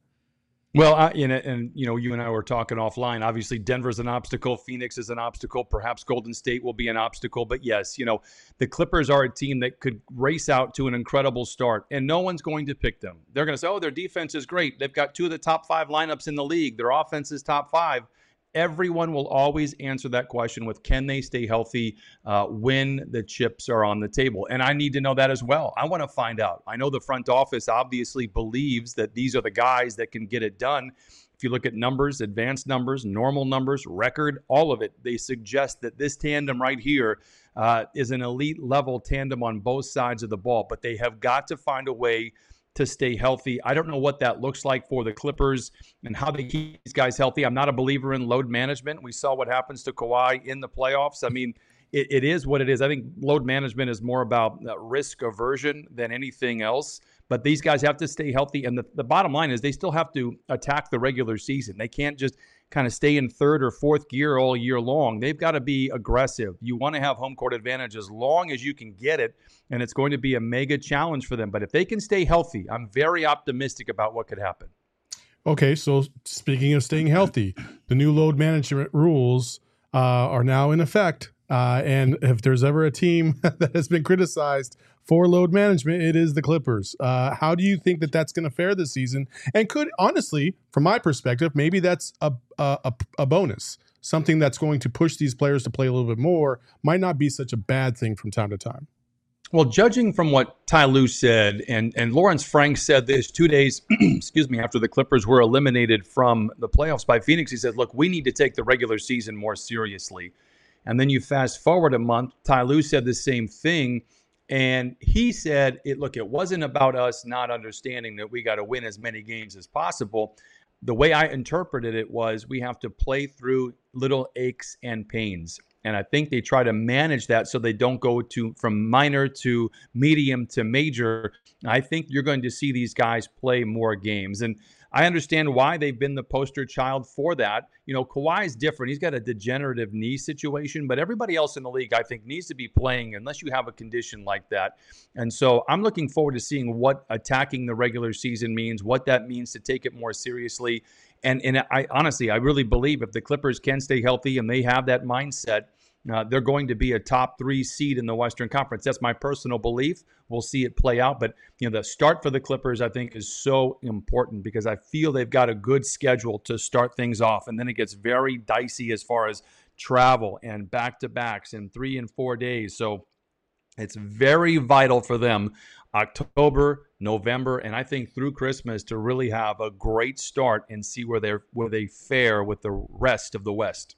Well, you and I were talking offline. Obviously, Denver's an obstacle. Phoenix is an obstacle. Perhaps Golden State will be an obstacle. But yes, the Clippers are a team that could race out to an incredible start, and no one's going to pick them. They're going to say, oh, their defense is great. They've got 2 of the top 5 lineups in the league. Their offense is top 5. Everyone will always answer that question with, can they stay healthy when the chips are on the table? And I need to know that as well. I want to find out. I know the front office obviously believes that these are the guys that can get it done. If you look at numbers, advanced numbers, normal numbers, record, all of it, they suggest that this tandem right here is an elite level tandem on both sides of the ball. But they have got to find a way to stay healthy. I don't know what that looks like for the Clippers and how they keep these guys healthy. I'm not a believer in load management. We saw what happens to Kawhi in the playoffs. I mean, it is what it is. I think load management is more about risk aversion than anything else. But these guys have to stay healthy. And the bottom line is they still have to attack the regular season. They can't just kind of stay in third or fourth gear all year long. They've got to be aggressive. You want to have home court advantage as long as you can get it, and it's going to be a mega challenge for them. But if they can stay healthy, I'm very optimistic about what could happen. Okay, so speaking of staying healthy, the new load management rules are now in effect. And if there's ever a team that has been criticized for load management, it is the Clippers. How do you think that that's going to fare this season? And could, honestly, from my perspective, maybe that's a bonus. Something that's going to push these players to play a little bit more might not be such a bad thing from time to time. Well, judging from what Ty Lue said, and Lawrence Frank said this 2 days, excuse me, after the Clippers were eliminated from the playoffs by Phoenix, he said, look, we need to take the regular season more seriously. And then you fast forward a month, Ty Lue said the same thing. And he said, it wasn't about us not understanding that we got to win as many games as possible. The way I interpreted it was we have to play through little aches and pains. And I think they try to manage that so they don't go from minor to medium to major. I think you're going to see these guys play more games. And I understand why they've been the poster child for that. You know, Kawhi's different. He's got a degenerative knee situation, but everybody else in the league, I think, needs to be playing unless you have a condition like that. And so I'm looking forward to seeing what attacking the regular season means, what that means to take it more seriously. And I honestly, I really believe if the Clippers can stay healthy and they have that mindset, they're going to be a top 3 seed in the Western Conference. That's my personal belief. We'll see it play out. But, the start for the Clippers, I think, is so important because I feel they've got a good schedule to start things off. And then it gets very dicey as far as travel and back-to-backs in 3 and 4 days. So it's very vital for them, October, November, and I think through Christmas to really have a great start and see where they fare with the rest of the West.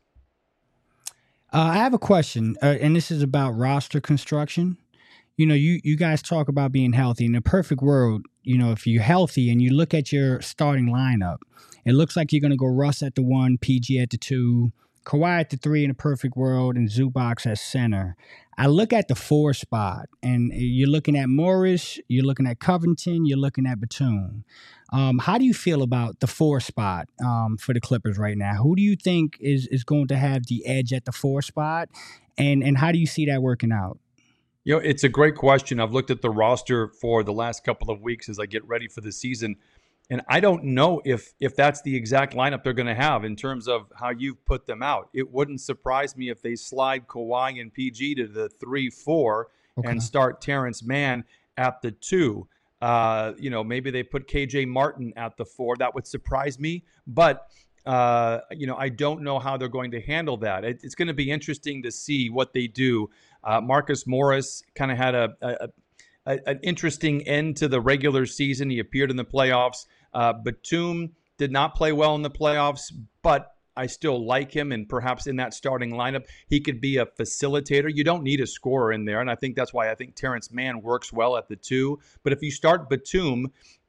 I have a question, and this is about roster construction. You guys talk about being healthy. In a perfect world, if you're healthy and you look at your starting lineup, it looks like you're going to go Russ at the 1, PG at the 2, Kawhi at the 3 in a perfect world, and Zubac at center. I look at the 4 spot, and you're looking at Morris, you're looking at Covington, you're looking at Batum. How do you feel about the 4 spot for the Clippers right now? Who do you think is going to have the edge at the 4 spot, and how do you see that working out? It's a great question. I've looked at the roster for the last couple of weeks as I get ready for the season, and I don't know if that's the exact lineup they're going to have in terms of how you've put them out. It wouldn't surprise me if they slide Kawhi and PG to the 3-4 and start Terrence Mann at the 2. Maybe they put KJ Martin at the 4. That would surprise me, but I don't know how they're going to handle that. It's going to be interesting to see what they do. Marcus Morris kind of had an interesting end to the regular season. He appeared in the playoffs. Batum did not play well in the playoffs, but I still like him, and perhaps in that starting lineup, he could be a facilitator. You don't need a scorer in there, and I think that's why I think Terrence Mann works well at the 2. But if you start Batum,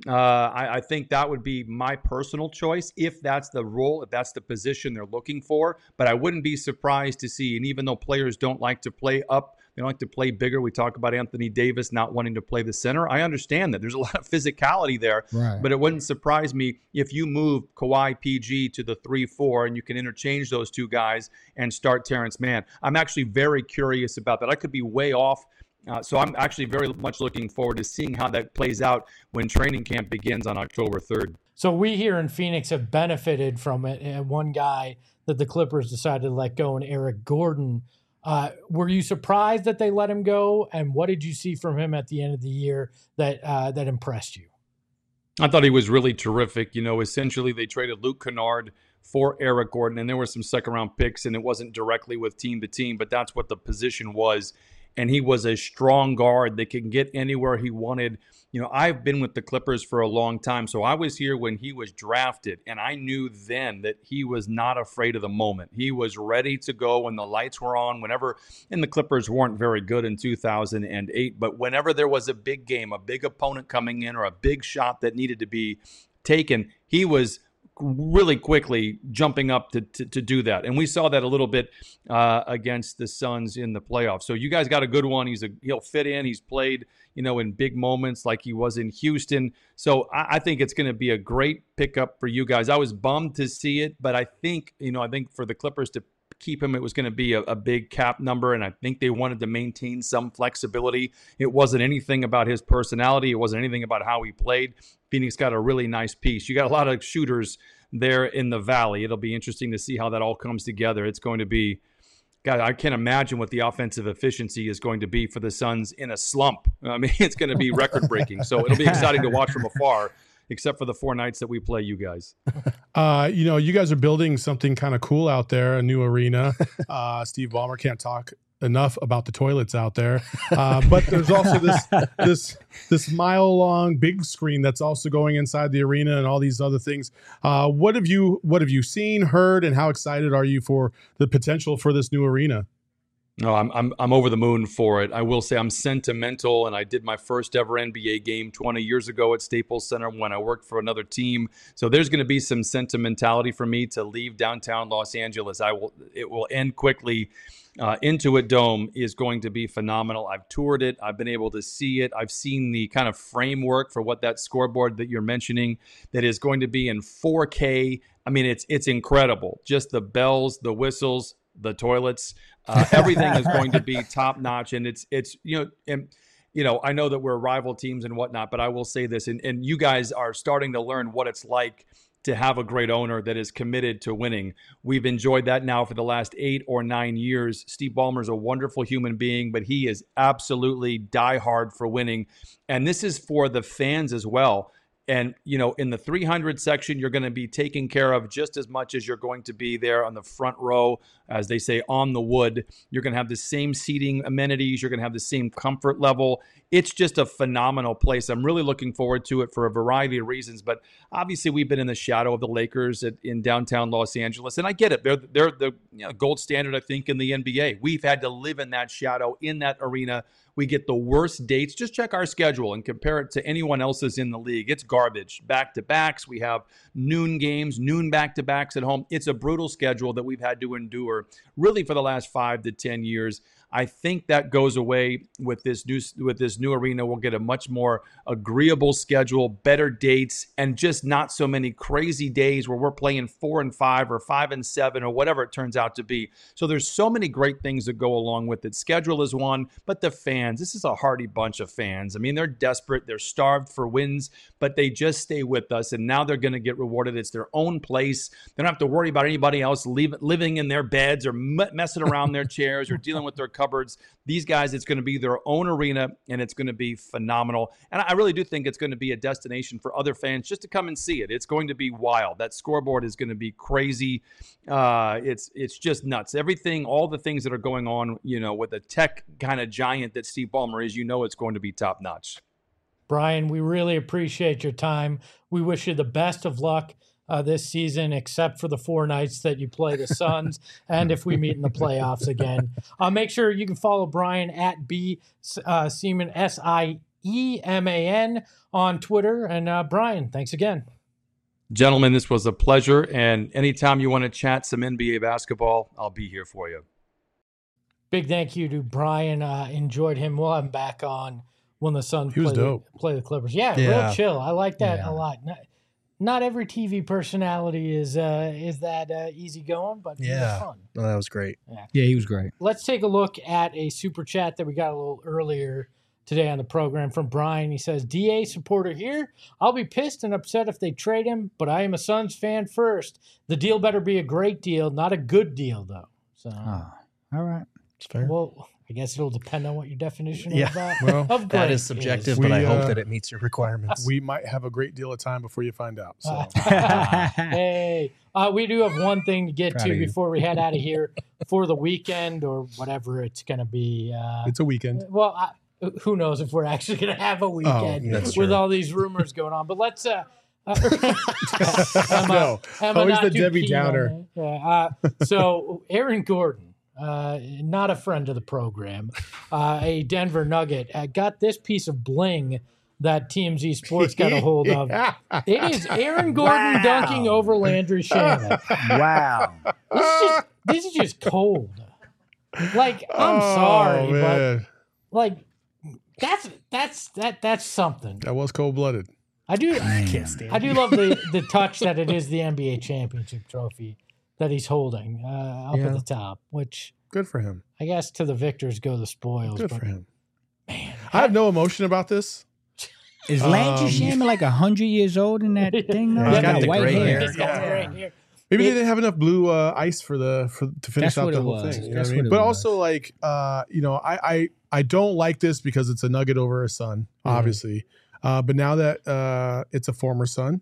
I think that would be my personal choice if that's the role, if that's the position they're looking for. But I wouldn't be surprised to see, and even though players don't like to play up, they don't like to play bigger. We talk about Anthony Davis not wanting to play the center. I understand that. There's a lot of physicality there, right. But it wouldn't surprise me if you move Kawhi PG to the 3-4 and you can interchange those 2 guys and start Terrence Mann. I'm actually very curious about that. I could be way off. So I'm actually very much looking forward to seeing how that plays out when training camp begins on October 3rd. So we here in Phoenix have benefited from it. One guy that the Clippers decided to let go, and Eric Gordon. Were you surprised that they let him go? And what did you see from him at the end of the year that impressed you? I thought he was really terrific. Essentially they traded Luke Kennard for Eric Gordon, and there were some second-round picks, and it wasn't directly with team to team, but that's what the position was. And he was a strong guard that can get anywhere he wanted. I've been with the Clippers for a long time, so I was here when he was drafted, and I knew then that he was not afraid of the moment. He was ready to go when the lights were on, and the Clippers weren't very good in 2008, but whenever there was a big game, a big opponent coming in, or a big shot that needed to be taken, he was really quickly jumping up to do that. And we saw that a little bit against the Suns in the playoffs. So you guys got a good one. He'll fit in. He's played, in big moments like he was in Houston. So I think it's going to be a great pickup for you guys. I was bummed to see it, but I think for the Clippers to keep him, it was going to be a big cap number, and I think they wanted to maintain some flexibility. It wasn't anything about his personality. It wasn't anything about how he played. Phoenix got a really nice piece. You got a lot of shooters there in the Valley. It'll be interesting to see how that all comes together. It's going to be, God, I can't imagine what the offensive efficiency is going to be for the Suns in a slump. I mean, it's going to be record-breaking. So it'll be exciting to watch from afar, except for the 4 nights that we play you guys. You guys are building something kind of cool out there, a new arena. Steve Ballmer can't talk enough about the toilets out there. But there's also this mile-long big screen that's also going inside the arena and all these other things. What have you seen, heard, and how excited are you for the potential for this new arena? No, I'm over the moon for it. I will say I'm sentimental, and I did my first ever NBA game 20 years ago at Staples Center when I worked for another team. So there's going to be some sentimentality for me to leave downtown Los Angeles. It will end quickly. Intuit Dome is going to be phenomenal. I've toured it. I've been able to see it. I've seen the kind of framework for what that scoreboard that you're mentioning that is going to be in 4K. I mean, it's incredible. Just the bells, the whistles, the toilets, everything is going to be top notch. And it's I know that we're rival teams and whatnot, but I will say this, and you guys are starting to learn what it's like to have a great owner that is committed to winning. We've enjoyed that now for the last 8 or 9 years. Steve Ballmer's a wonderful human being, but he is absolutely diehard for winning. And this is for the fans as well. And, in the 300 section, you're going to be taken care of just as much as you're going to be there on the front row, as they say, on the wood. You're going to have the same seating amenities. You're going to have the same comfort level. It's just a phenomenal place. I'm really looking forward to it for a variety of reasons. But obviously, we've been in the shadow of the Lakers in downtown Los Angeles. And I get it. They're the gold standard, I think, in the NBA. We've had to live in that shadow, in that arena. We get the worst dates. Just check our schedule and compare it to anyone else's in the league. It's garbage. Back-to-backs. We have noon games, noon back-to-backs at home. It's a brutal schedule that we've had to endure really for the last 5 to 10 years. I think that goes away with this new arena. We'll get a much more agreeable schedule, better dates, and just not so many crazy days where we're playing 4 and 5 or 5 and 7 or whatever it turns out to be. So there's so many great things that go along with it. Schedule is one, but the fans, this is a hardy bunch of fans. I mean, they're desperate. They're starved for wins, but they just stay with us, and now they're going to get rewarded. It's their own place. They don't have to worry about anybody else living in their beds or messing around their chairs or dealing with their cupboards. These guys, it's going to be their own arena, and it's going to be phenomenal. And I really do think it's going to be a destination for other fans just to come and see it. It's going to be wild. That scoreboard is going to be crazy. It's just nuts. Everything, all the things that are going on, with a tech kind of giant that Steve Ballmer is, it's going to be top notch. Brian, we really appreciate your time. We wish you the best of luck this season, except for the 4 nights that you play the Suns, and if we meet in the playoffs again. Make sure you can follow Brian at Sieman, SIEMAN on Twitter. And Brian, thanks again. Gentlemen, this was a pleasure, and anytime you want to chat some NBA basketball, I'll be here for you. Big thank you to Brian. Enjoyed him. We'll have him back on when the Suns play the Clippers. Yeah, real chill. I like that a lot. Not every TV personality is that easygoing, but he was fun. No, that was great. Yeah, he was great. Let's take a look at a super chat that we got a little earlier today on the program from Brian. He says, DA supporter here. I'll be pissed and upset if they trade him, but I am a Suns fan first. The deal better be a great deal, not a good deal, though. So, all right. It's fair. Well, I guess it'll depend on what your definition of that great is subjective, but I hope that it meets your requirements. We might have a great deal of time before you find out. So. Hey, we do have one thing to get to before we head out of here for the weekend or whatever it's going to be. It's a weekend. Well, who knows if we're actually going to have a weekend with all these rumors going on. But let's always the Debbie Downer. So Aaron Gordon, not a friend of the program, a Denver Nugget, got this piece of bling that TMZ Sports got a hold of. It is Aaron Gordon dunking over Landry Shamet. Wow. This is just cold. Like, I'm sorry, but like that's something. That was cold-blooded. I do love the touch that it is the NBA championship trophy that he's holding up at the top, which good for him. I guess to the victors go the spoils. Good for him. Man, I have no emotion about this. Is Landry Shamet like 100 years old in that thing? He's got the white gray hair. He's got the gray hair. Maybe they didn't have enough blue ice to finish out the whole thing. You know what I mean? But also, like, I don't like this because it's a Nugget over a Sun, obviously. But now that it's a former Sun,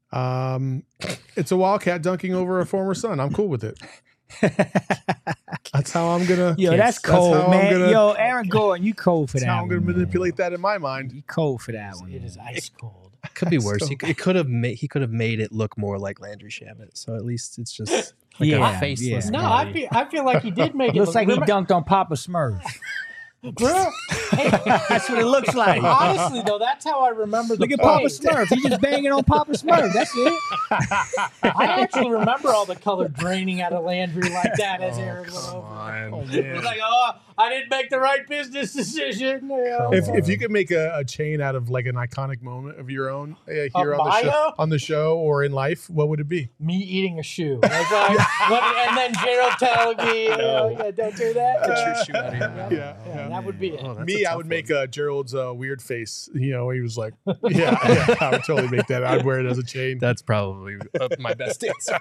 it's a Wildcat dunking over a former Sun. I'm cool with it. That's how I'm gonna. Yo, that's cold, how I'm man. gonna- Yo, Aaron Gordon, you cold for That's that how I'm gonna one, man. manipulate that in my mind. You cold for that one. It man. is ice cold. Could be worse. He could have made it look more like Landry Shamet. So at least it's just like Yeah, a faceless. yeah. No, guy. I feel like he did make it Looks look like he remember- dunked on Papa Smurf. Bro, That's what it looks like. honestly though, that's how I remember the Look at play. Papa Smurf. He's just banging on Papa Smurf. That's it. I actually remember all the color draining out of Landry like that as Aaron went over. It was like, I didn't make the right business decision. You know? If you could make a chain out of like an iconic moment of your own here bio? on the show or in life, what would it be? Me eating a shoe. That's like, and then Gerald telling me, don't do that. Get your shoe out of your mouth. Yeah. That would be it. Oh, that's Me, a I tough would make one. Gerald's weird face. You know, he was like, yeah, I would totally make that. I'd wear it as a chain. That's probably my best answer.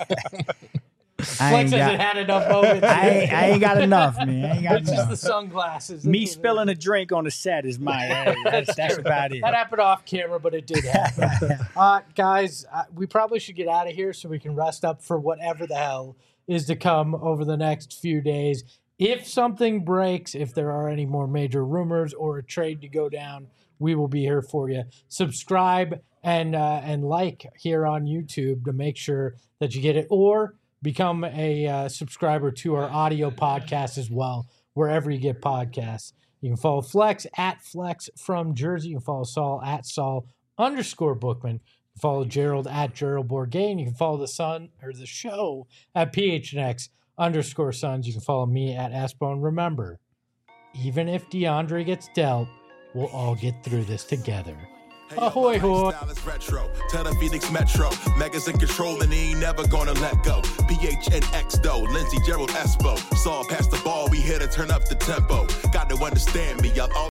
I Flex ain't hasn't got, had enough moments. I ain't got enough, man. I ain't got It's just the enough. sunglasses. Me That's- spilling a drink on the set is my. That's about it. That happened off camera, but it did happen. Guys, we probably should get out of here so we can rest up for whatever the hell is to come over the next few days. If something breaks, if there are any more major rumors or a trade to go down, we will be here for you. Subscribe and like here on YouTube to make sure that you get it, or become a subscriber to our audio podcast as well, wherever you get podcasts. You can follow Flex at Flex from Jersey. You can follow Saul at Saul_Bookman. You can follow Gerald at Gerald Bourgain. You can follow the show at PHNX_Sons. You can follow me at Espone. Remember, even if DeAndre gets dealt, we'll all get through this together. Ahoy, hoy. Style is retro. Tell the Phoenix Metro. Megas in control and he ain't never gonna let go. PHNX though. Lindsey, Gerald, Espo. Saw past the ball. We here to turn up the tempo. Got to understand me. Y'all